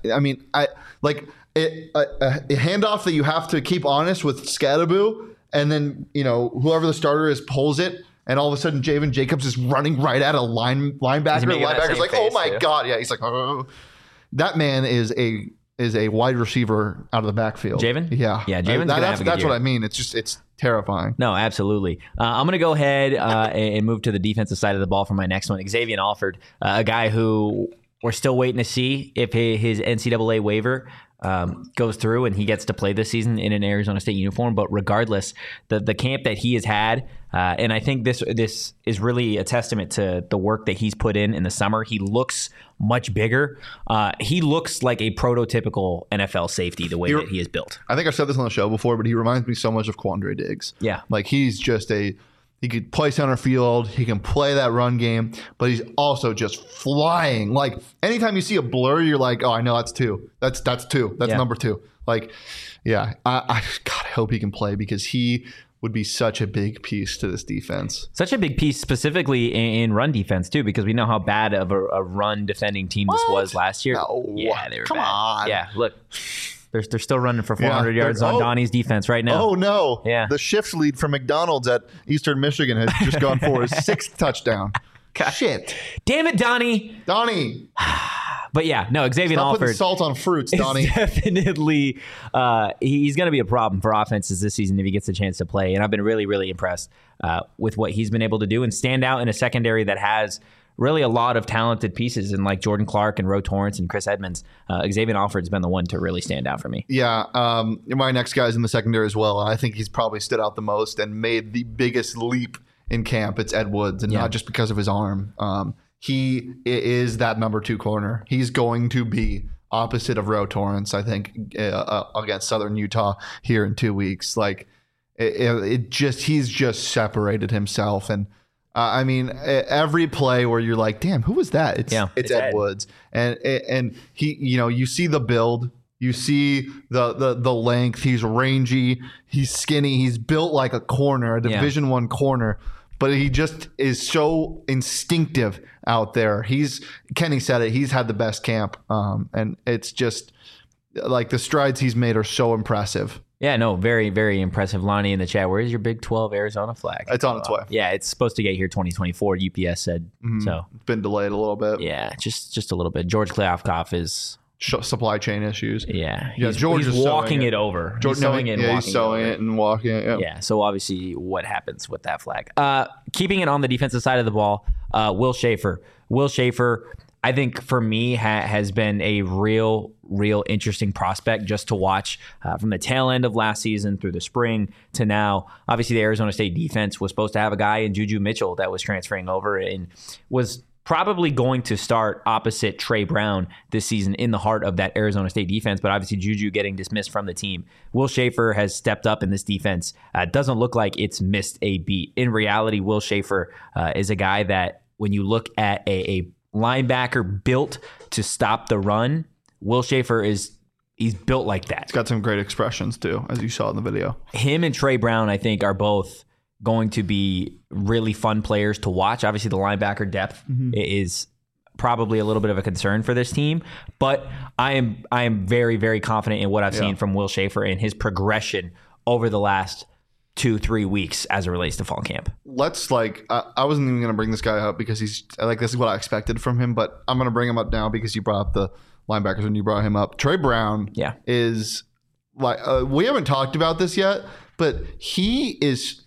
B: handoff that you have to keep honest with Scatteraboo, and then whoever the starter is pulls it, and all of a sudden Javen Jacobs is running right at a linebacker. The linebacker's like, oh my god, yeah. He's like, oh. That man is a wide receiver out of the backfield.
A: Javen?
B: Yeah.
A: Yeah, Javen's gonna have a good
B: that's
A: year.
B: what I mean. It's terrifying.
A: No, absolutely. I'm going to go ahead and move to the defensive side of the ball for my next one. Xavier Alford, a guy who we're still waiting to see if his NCAA waiver goes through and he gets to play this season in an Arizona State uniform. But regardless, the camp that he has had, and I think this is really a testament to the work that he's put in the summer. He looks much bigger. He looks like a prototypical NFL safety the way that he is built.
B: I think I've said this on the show before, but he reminds me so much of Quandre Diggs.
A: Yeah.
B: He's just he could play center field. He can play that run game, but he's also just flying. Anytime you see a blur, you're like, oh, I know that's two. That's two. That's number two. I hope he can play because he would be such a big piece to this defense.
A: Such a big piece specifically in run defense too, because we know how bad of a run defending team this was last year.
B: No.
A: Yeah, they were
B: Come
A: bad.
B: on.
A: Yeah, look. They're still running for 400 yards on Donnie's defense right now.
B: Oh, no.
A: Yeah.
B: The shift lead from McDonald's at Eastern Michigan has just gone for his sixth touchdown.
A: God.
B: Shit.
A: Damn it, Donnie. But yeah, no, Xavier
B: Stop
A: Alford.
B: putting salt on fruits, Donnie.
A: Definitely, he's going to be a problem for offenses this season if he gets a chance to play. And I've been really, really impressed with what he's been able to do and stand out in a secondary that has really a lot of talented pieces in Jordan Clark and Ro Torrance and Chris Edmonds. Xavier Alford's been the one to really stand out for me.
B: Yeah, my next guy's in the secondary as well. I think he's probably stood out the most and made the biggest leap in camp. It's Ed Woods, and not just because of his arm. He is that number 2 corner. He's going to be opposite of Ro Torrance, I think, against Southern Utah here in 2 weeks. He's just separated himself. And every play where you're like, damn, who was that? It's Ed Woods. And he, you see the build, you see the length. He's rangy, he's skinny, he's built like a corner, a Division I corner. But he just is so instinctive out there. Kenny said it. He's had the best camp, and it's just the strides he's made are so impressive.
A: Yeah, no, very, very impressive. Lonnie in the chat, where is your Big 12 Arizona flag?
B: It's on its way.
A: Yeah, it's supposed to get here 2024. UPS said so.
B: It's been delayed a little bit.
A: Yeah, just a little bit. George Kliavkoff is
B: supply chain issues.
A: Yeah,
B: George is
A: walking it over.
B: He's sewing it and walking it.
A: Yeah, so obviously what happens with that flag? Keeping it on the defensive side of the ball, Will Schaefer. I think for me has been a real interesting prospect just to watch from the tail end of last season through the spring to now. Obviously, the Arizona State defense was supposed to have a guy in Juju Mitchell that was transferring over and was probably going to start opposite Trey Brown this season in the heart of that Arizona State defense, but obviously Juju getting dismissed from the team. Will Schaefer has stepped up in this defense. Doesn't look like it's missed a beat. In reality, Will Schaefer is a guy that when you look at a linebacker built to stop the run, Will Schaefer he's built like that.
B: He's got some great expressions too, as you saw in the video.
A: Him and Trey Brown, I think, are both going to be really fun players to watch. Obviously, the linebacker depth is probably a little bit of a concern for this team, but I am very, very confident in what I've seen from Will Schaefer and his progression over the last 2-3 weeks as it relates to fall camp.
B: Let's I wasn't even going to bring this guy up because he's this is what I expected from him, but I'm going to bring him up now because you brought up the linebackers when you brought him up. Trey Brown is we haven't talked about this yet, but he is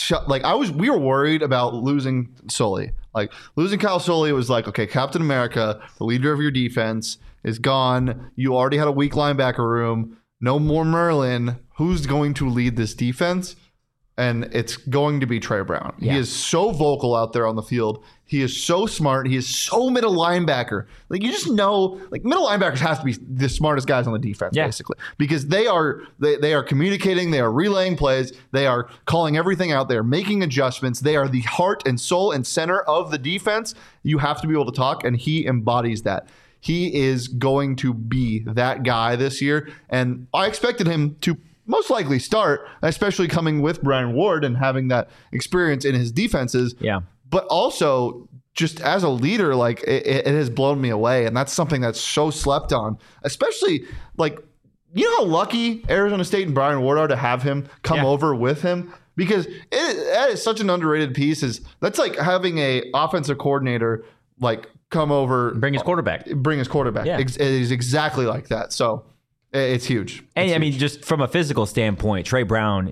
B: we were worried about losing Sully. Losing Kyle Sully was okay, Captain America, the leader of your defense, is gone. You already had a weak linebacker room. No more Merlin. Who's going to lead this defense? And it's going to be Trey Brown. Yeah. He is so vocal out there on the field. He is so smart. He is so middle linebacker. You just know, middle linebackers have to be the smartest guys on the defense, basically, because they are communicating, they are relaying plays, they are calling everything out, they are making adjustments, they are the heart and soul and center of the defense. You have to be able to talk, and he embodies that. He is going to be that guy this year, and I expected him to most likely start, especially coming with Brian Ward and having that experience in his defenses. Yeah. But also, just as a leader, it has blown me away. And that's something that's so slept on, especially you know how lucky Arizona State and Brian Ward are to have him come over with him? Because that is such an underrated piece. That's like having a offensive coordinator come over.
A: Bring his quarterback.
B: Yeah. It is exactly like that. So it's huge.
A: And I mean, just from a physical standpoint, Trey Brown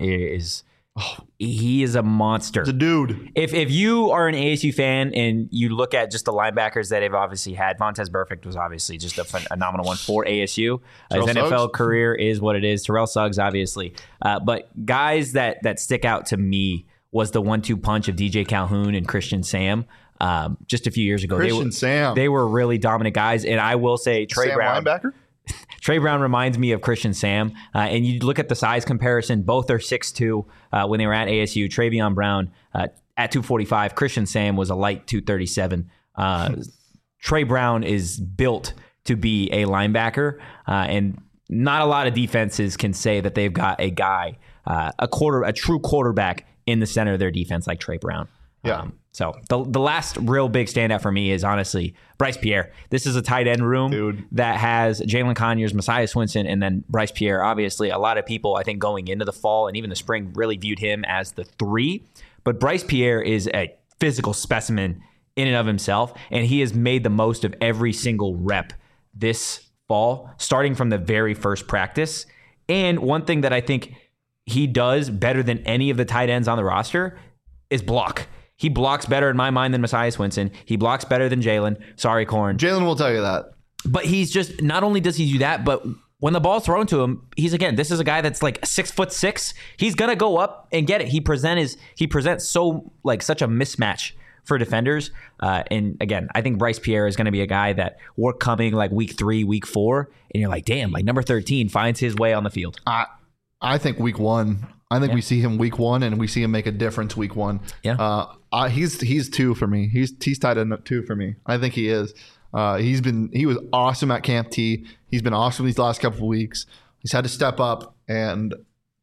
A: he is a monster.
B: It's a dude.
A: If you are an ASU fan and you look at just the linebackers that they've obviously had, Vontaze Burfict was obviously just a phenomenal one for ASU. His NFL career is what it is. Terrell Suggs, obviously. But guys that stick out to me was the 1-2 punch of DJ Calhoun and Christian Sam. Just a few years ago. They were really dominant guys. And I will say Trey Brown.
B: Linebacker?
A: Trey Brown reminds me of Christian Sam. And you look at the size comparison, both are 6'2". When they were at ASU, Travion Brown at 245. Christian Sam was a light 237. Trey Brown is built to be a linebacker. And not a lot of defenses can say that they've got a guy, a true quarterback in the center of their defense like Trey Brown.
B: Yeah.
A: So the last real big standout for me is honestly Bryce Pierre. This is a tight end room that has Jalen Conyers, Messiah Swinson, and then Bryce Pierre. Obviously, a lot of people, I think, going into the fall and even the spring really viewed him as the 3. But Bryce Pierre is a physical specimen in and of himself, and he has made the most of every single rep this fall, starting from the very first practice. And one thing that I think he does better than any of the tight ends on the roster is block. He blocks better in my mind than Messiah Swinson. He blocks better than Jalen. Sorry, Corn.
B: Jalen will tell you that.
A: But he's just, not only does he do that, but when the ball's thrown to him, this is a guy that's 6'6". He's going to go up and get it. He presents so such a mismatch for defenders. And again, I think Bryce Pierre is going to be a guy that we're coming week 3, week 4. And you're damn, number 13 finds his way on the field.
B: I think week 1. I think we see him week 1 and we see him make a difference week 1.
A: Yeah.
B: He's 2 for me. He's tight end 2 for me. I think he is. He was awesome at Camp T. He's been awesome these last couple of weeks. He's had to step up and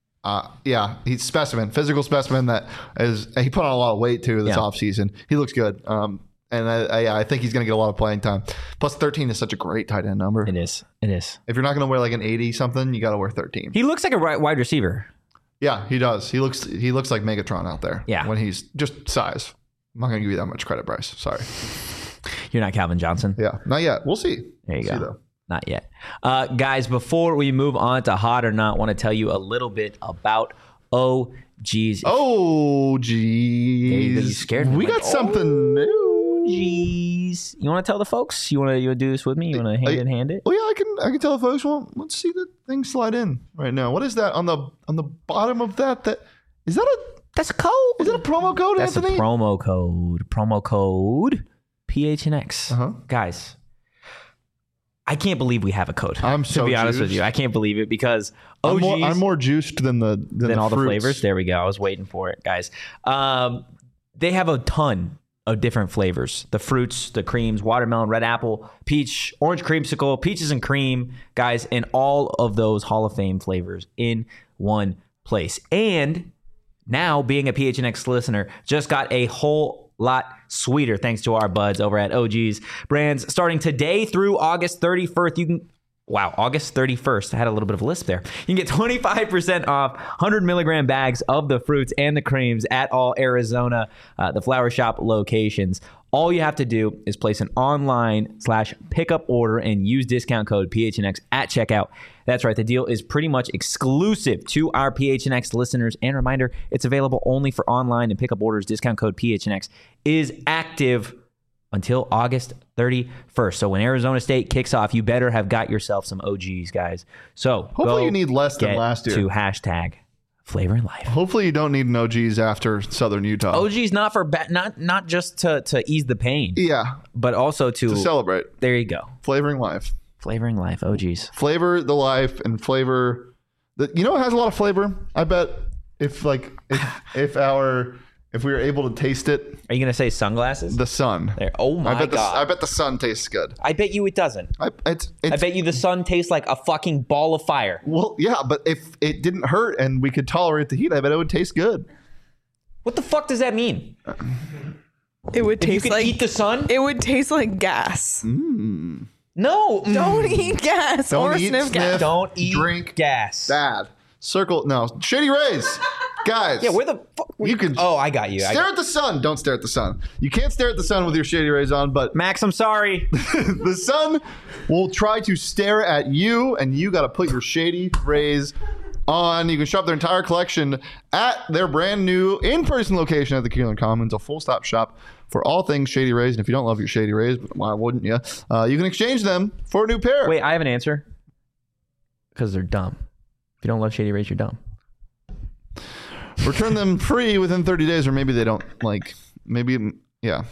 B: he's physical specimen he put on a lot of weight too this offseason. He looks good. And I think he's going to get a lot of playing time. Plus 13 is such a great tight end number.
A: It is.
B: If you're not going to wear an 80 something, you got to wear 13.
A: He looks like a wide receiver.
B: Yeah, he does. He looks like Megatron out there.
A: Yeah.
B: When he's just size. I'm not going to give you that much credit, Bryce. Sorry.
A: You're not Calvin Johnson.
B: Yeah, not yet. We'll see.
A: There you go.
B: See, though.
A: Not yet. Guys, before we move on to Hot or Not, I want to tell you a little bit about OGs.
B: Oh, geez.
A: You scared me.
B: We got something new.
A: OGs. You want to tell the folks? You want to do this with me? You want to hand it?
B: Oh yeah, I can tell the folks. Well, let's see the thing slide in right now. What is that on the bottom of that? That's a code. Is that a promo code,
A: That's
B: Anthony?
A: a promo code. Promo code PHNX. Guys, I can't believe we have a code.
B: I'm so
A: to be honest
B: juiced.
A: with you, I can't believe it because OGs.
B: I'm more juiced than all
A: the
B: fruits.
A: flavors. There we go. I was waiting for it, guys. They have a ton of different flavors: the fruits, the creams, watermelon, red apple, peach, orange creamsicle, peaches and cream, guys, and all of those Hall of Fame flavors in one place. And now, being a PHNX listener, just got a whole lot sweeter thanks to our buds over at OG's Brands. Starting today through August 31st, August 31st. I had a little bit of a lisp there. You can get 25% off 100 milligram bags of the fruits and the creams at all Arizona, the Flower Shop locations. All you have to do is place an online/pickup order and use discount code PHNX at checkout. That's right. The deal is pretty much exclusive to our PHNX listeners. And reminder, it's available only for online and pickup orders. Discount code PHNX is active until August 31st. So when Arizona State kicks off, you better have got yourself some OGs, guys. So
B: hopefully you need less than last year.
A: To hashtag Flavor in Life.
B: Hopefully you don't need an OGs after Southern Utah.
A: OGs not for not just to ease the pain.
B: Yeah.
A: But also to
B: celebrate.
A: There you go.
B: Flavoring life.
A: Flavoring life. OGs.
B: Flavor the life and flavor you know what has a lot of flavor? I bet if we were able to taste it.
A: Are you gonna say sunglasses?
B: The sun.
A: There. Oh my god.
B: I bet the sun tastes good.
A: I bet you it doesn't.
B: I
A: bet you the sun tastes like a fucking ball of fire.
B: Well, yeah, but if it didn't hurt and we could tolerate the heat, I bet it would taste good.
A: What the fuck does that mean?
D: It would taste
A: you could eat the sun?
D: It would taste like gas.
A: No.
D: Don't eat gas
B: Don't
D: or
B: eat,
D: sniff gas.
A: Don't eat
B: drink
A: gas.
B: Bad. Shady Rays. Guys.
A: Yeah, where the fuck?
B: You can.
A: Oh, I got you.
B: Stare at the sun. Don't stare at the sun. You can't stare at the sun with your Shady Rays on, but
A: Max, I'm sorry.
B: the sun will try to stare at you, and you got to put your Shady Rays on. You can shop their entire collection at their brand new in-person location at the Keeneland Commons, a full-stop shop for all things Shady Rays. And if you don't love your Shady Rays, why wouldn't you? You can exchange them for a new pair.
A: Wait, I have an answer. Because they're dumb. If you don't love Shady Rays, you're dumb.
B: Return them free within 30 days, or maybe they don't yeah.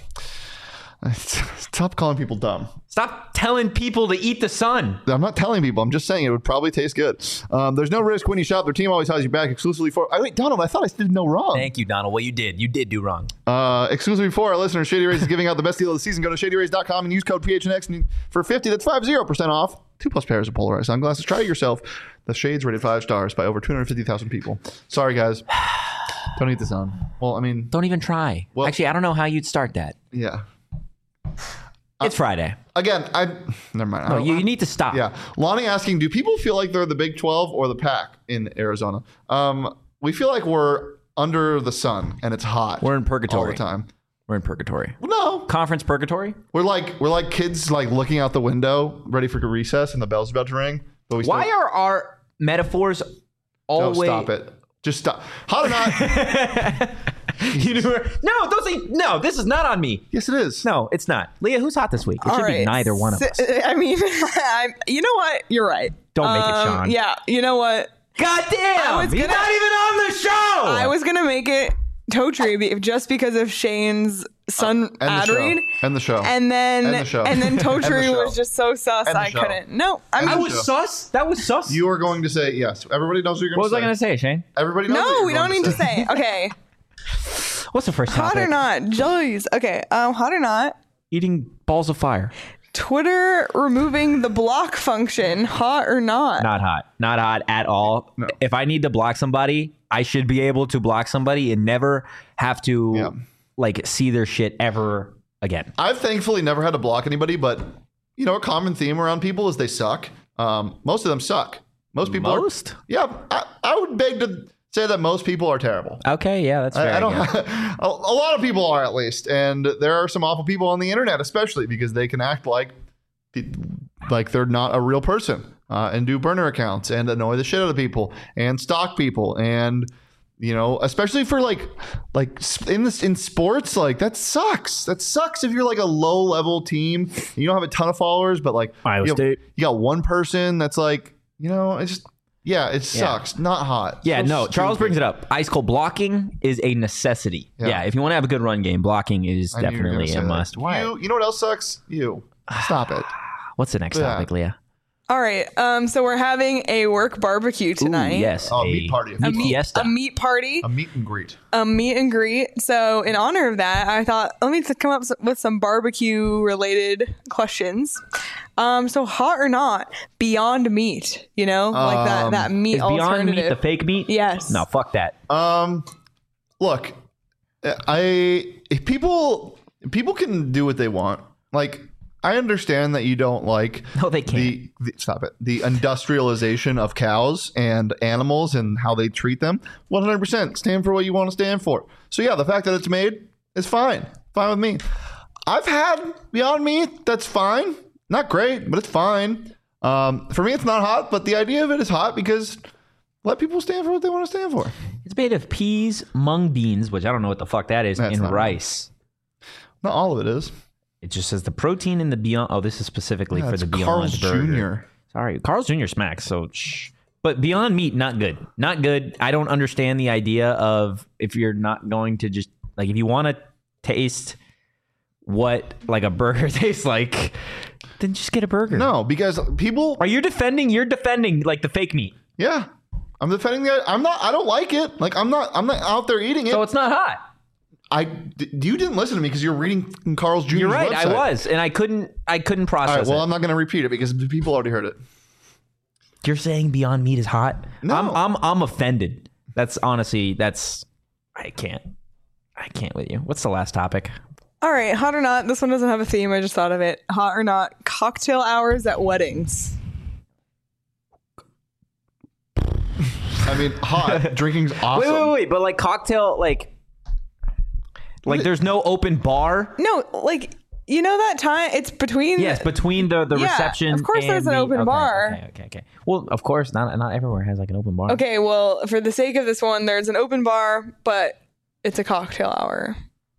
B: Stop calling people dumb.
A: Stop telling people to eat the sun.
B: I'm not telling people. I'm just saying it would probably taste good. There's no risk when you shop. Their team always has you back exclusively for... Wait, Donald, I thought I did no wrong.
A: Thank you, Donald. Well, you did. You did do wrong.
B: Exclusively for our listeners, Shady Rays is giving out the best deal of the season. Go to shadyrays.com and use code PHNX for 50. That's 50% off. 2+ pairs of polarized sunglasses. Try it yourself. The shades rated 5 stars by over 250,000 people. Sorry, guys. Don't eat the sun. Well, I mean...
A: Don't even try. Well, actually, I don't know how you'd start that.
B: Yeah.
A: It's Friday.
B: Again, never mind.
A: No, you need to stop.
B: Yeah. Lonnie asking, do people feel like they're the Big 12 or the Pac in Arizona? We feel like we're under the sun and it's hot.
A: We're in purgatory.
B: All the time.
A: We're in purgatory.
B: No.
A: Conference purgatory?
B: We're like kids like looking out the window, ready for recess, and the bell's about to ring. But
A: why are our metaphors always...
B: No, stop it. Just stop. Hot or not...
A: No, this is not on me.
B: Yes, it is.
A: No, it's not. Leah, who's hot this week? It should be neither one of us.
D: I mean, you know what? You're right.
A: Don't make it Sean.
D: Yeah, you know what?
A: God damn! He's not even on the show!
D: I was going to make it Totri just because of Shane's son, Adrian.
B: And the show.
D: And then Totri
B: And the
D: was just so sus, I couldn't. No,
A: I was sus? That was sus?
B: You are going to say yes. Everybody knows what you're going to say.
A: What was I going to say, Shane?
B: Everybody knows
D: No, we don't need to say. Okay.
A: What's the first topic?
D: Hot or not? Jeez. Okay. Hot or not?
A: Eating balls of fire.
D: Twitter removing the block function. Hot or not?
A: Not hot. Not hot at all. No. If I need to block somebody, I should be able to block somebody and never have to see their shit ever again.
B: I've thankfully never had to block anybody, but a common theme around people is they suck. Most of them suck. Most people I would beg to say that most people are terrible.
A: Okay, yeah, that's fair.
B: A lot of people are, at least, and there are some awful people on the internet, especially because they can act like they're not a real person and do burner accounts and annoy the shit out of people and stalk people and You know, especially for like in sports, like that sucks. That sucks if you're like a low level team. You don't have a ton of followers, but like
A: Iowa State.
B: You got one person that's like, you know, it's just it sucks. Not hot.
A: Yeah,
B: So
A: no.
B: stupid.
A: Charles brings it up. Ice cold blocking is a necessity. Yeah, if you want to have a good run game, blocking is
B: I knew you were gonna
A: definitely
B: say
A: a
B: that.
A: must. Why?
B: You know what else sucks? You. Stop it.
A: What's the next topic, Leah?
D: All right. So we're having a work barbecue tonight.
A: Ooh, yes.
B: Oh, meat party.
A: Meat fiesta.
D: A meat party.
B: A meet and greet.
D: A meet and greet. So in honor of that, I thought, let me come up with some barbecue related questions. So hot or not, Beyond Meat, you know, like that meat
A: Is Beyond
D: alternative.
A: Meat the fake meat?
D: Yes.
A: No, fuck that.
B: Look, if people can do what they want. Like, I understand that you don't like
A: No, they can't.
B: the industrialization of cows and animals and how they treat them. 100% stand for what you want to stand for. So yeah, the fact that it's made is fine with me. I've had Beyond Meat. That's fine. Not great, but it's fine. For me, it's not hot, but the idea of it is hot because let people stand for what they want to stand for.
A: It's made of peas, mung beans, which I don't know what the fuck that is,
B: That's
A: and
B: not
A: rice.
B: Not all of it is.
A: It just says the protein in the Beyond. Oh, this is specifically for
B: That's
A: the Beyond
B: Carl's
A: burger.
B: Jr.
A: Sorry, Carl's Jr. smacks. So, shh. But Beyond Meat, not good. Not good. I don't understand the idea of if you're not going to just like if you want to taste what like a burger tastes like, then just get a burger.
B: No, because people
A: Are you defending? You're defending like the fake meat.
B: Yeah, I'm defending that. I'm not. I don't like it. Like I'm not out there eating it.
A: So it's not hot.
B: You didn't listen to me because you're reading Carl's Jr.'s
A: You're right.
B: website.
A: I was, and I couldn't process
B: All right. Well,
A: it.
B: I'm not going to repeat it because the people already heard it.
A: You're saying Beyond Meat is hot?
B: No.
A: I'm offended. That's honestly I can't with you. What's the last topic?
D: All right. Hot or not. This one doesn't have a theme. I just thought of it. Hot or not, cocktail hours at weddings.
B: I mean, hot. Drinking's awesome.
A: Wait. But like cocktail, like there's no open bar.
D: No, like, you know that time? It's between...
A: Yes, between the
D: Yeah,
A: reception.
D: of course
A: and
D: there's an open bar.
A: Okay. Well, of course, not everywhere has like an open bar.
D: Okay, well, for the sake of this one, there's an open bar, but it's a cocktail hour.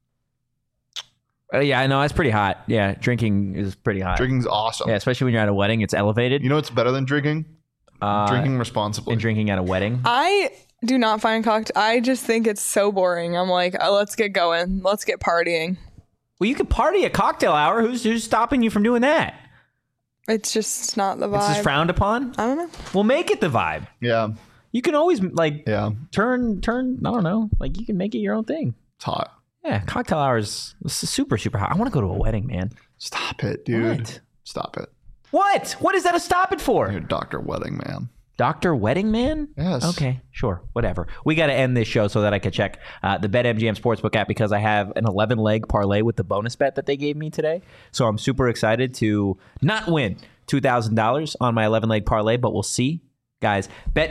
A: Yeah, I know that's pretty hot. Yeah, drinking is pretty hot.
B: Drinking's awesome.
A: Yeah, especially when you're at a wedding, it's elevated.
B: You know what's better than drinking? Drinking responsibly.
A: And drinking at a wedding.
D: I do not find cocktail... I just think it's so boring. I'm like, let's get going. Let's get partying.
A: Well, you could party at cocktail hour. Who's stopping you from doing that?
D: It's just not the vibe.
A: It's just frowned upon.
D: I don't know.
A: Well, make it the vibe.
B: Yeah.
A: You can always like
B: Yeah.
A: turn. I don't know. Like you can make it your own thing.
B: It's hot.
A: Yeah, cocktail hours is super hot. I want to go to a wedding, man.
B: Stop it, dude.
A: What?
B: Stop it.
A: What? What is that a stop it for?
B: You're Dr. Wedding Man.
A: Dr. Wedding Man?
B: Yes.
A: Okay, sure, whatever. We got to end this show so that I could check the BetMGM Sportsbook app because I have an 11-leg parlay with the bonus bet that they gave me today. So I'm super excited to not win $2,000 on my 11-leg parlay, but we'll see. Guys,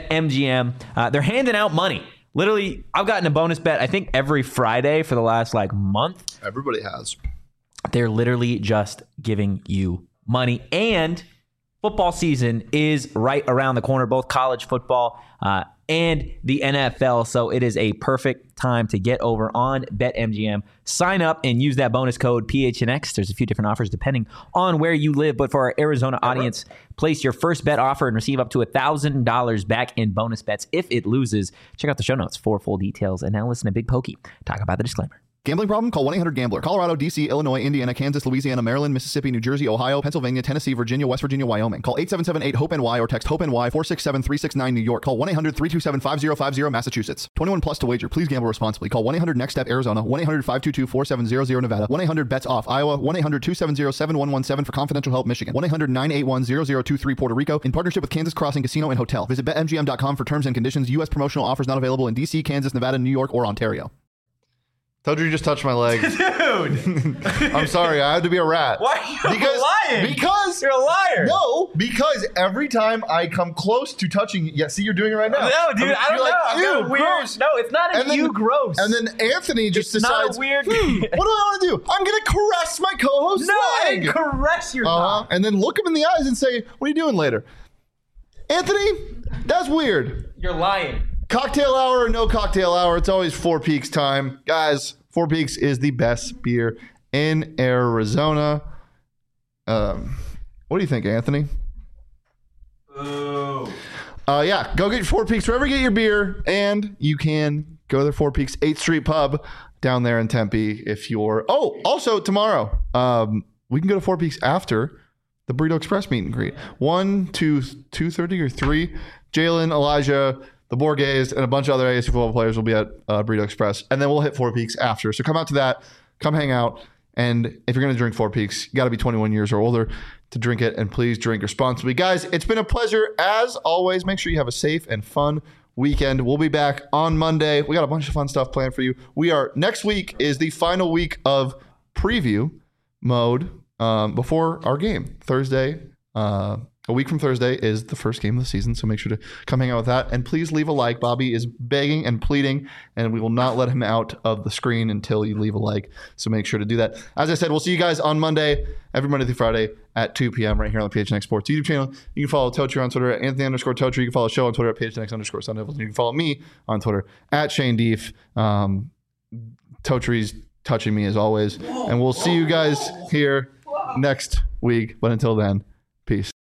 A: BetMGM, they're handing out money. Literally, I've gotten a bonus bet, I think, every Friday for the last month.
B: Everybody has.
A: They're literally just giving you money. And football season is right around the corner, both college football and the NFL. So it is a perfect time to get over on BetMGM. Sign up and use that bonus code PHNX. There's a few different offers depending on where you live. But for our Arizona audience, place your first bet offer and receive up to $1,000 back in bonus bets if it loses. Check out the show notes for full details. And now listen to Big Pokey talk about the disclaimer.
B: Gambling problem? Call 1-800-GAMBLER. Colorado, D.C., Illinois, Indiana, Kansas, Louisiana, Maryland, Mississippi, New Jersey, Ohio, Pennsylvania, Tennessee, Virginia, West Virginia, Wyoming. Call 877-8-HOPE-NY or text HOPE-NY 467-369 New York. Call 1-800-327-5050 Massachusetts. 21 plus to wager. Please gamble responsibly. Call 1-800-NEXT-STEP Arizona. 1-800-522-4700 Nevada. 1-800-BETS-OFF Iowa. 1-800-270-7117 for confidential help Michigan. 1-800-981-0023 Puerto Rico. In partnership with Kansas Crossing Casino and Hotel. Visit BetMGM.com for terms and conditions. U.S. promotional offers not available in D.C., Kansas, Nevada, New York, or Ontario. Told you just touched my leg.
A: Dude!
B: I'm sorry. I had to be a rat.
A: Why are you lying?
B: Because
A: You're a liar.
B: No, because every time I come close to touching you, yeah, see, you're doing it right now.
A: No, dude, I don't
B: you're
A: know.
B: like,
A: I've got
B: ew,
A: a weird.
B: gross.
A: No, it's not an ew gross.
B: And then Anthony just
A: It's not
B: decides,
A: a weird.
B: what do I want to do? I'm going to caress my co-host's
A: No, I
B: leg.
A: didn't caress your dog.
B: And then look him in the eyes and say, what are you doing later? Anthony, that's weird.
A: You're lying.
B: Cocktail hour or no cocktail hour, it's always Four Peaks time. Guys, Four Peaks is the best beer in Arizona. What do you think, Anthony? Yeah, go get Four Peaks wherever you get your beer, and you can go to the Four Peaks 8th Street Pub down there in Tempe if you're... Oh, also tomorrow, we can go to Four Peaks after the Burrito Express meet and greet. 1 to 2:30 or 3. Jalen, Elijah, the Borges, and a bunch of other ASU football players will be at Burrito Express, and then we'll hit Four Peaks after. So come out to that, come hang out, and if you're going to drink Four Peaks, you got to be 21 years or older to drink it, and please drink responsibly. Guys, it's been a pleasure as always. Make sure you have a safe and fun weekend. We'll be back on Monday. We got a bunch of fun stuff planned for you. Next week is the final week of preview mode before our game. Thursday, a week from Thursday is the first game of the season, so make sure to come hang out with that. And please leave a like. Bobby is begging and pleading, and we will not let him out of the screen until you leave a like. So make sure to do that. As I said, we'll see you guys on Monday, every Monday through Friday at 2 p.m. right here on the PHNX Sports YouTube channel. You can follow Totri on Twitter at Anthony_Totri. You can follow the show on Twitter at PHNX_Sun Devils. And you can follow me on Twitter at Shane Deef. Totri's touching me as always. And we'll see you guys here next week. But until then,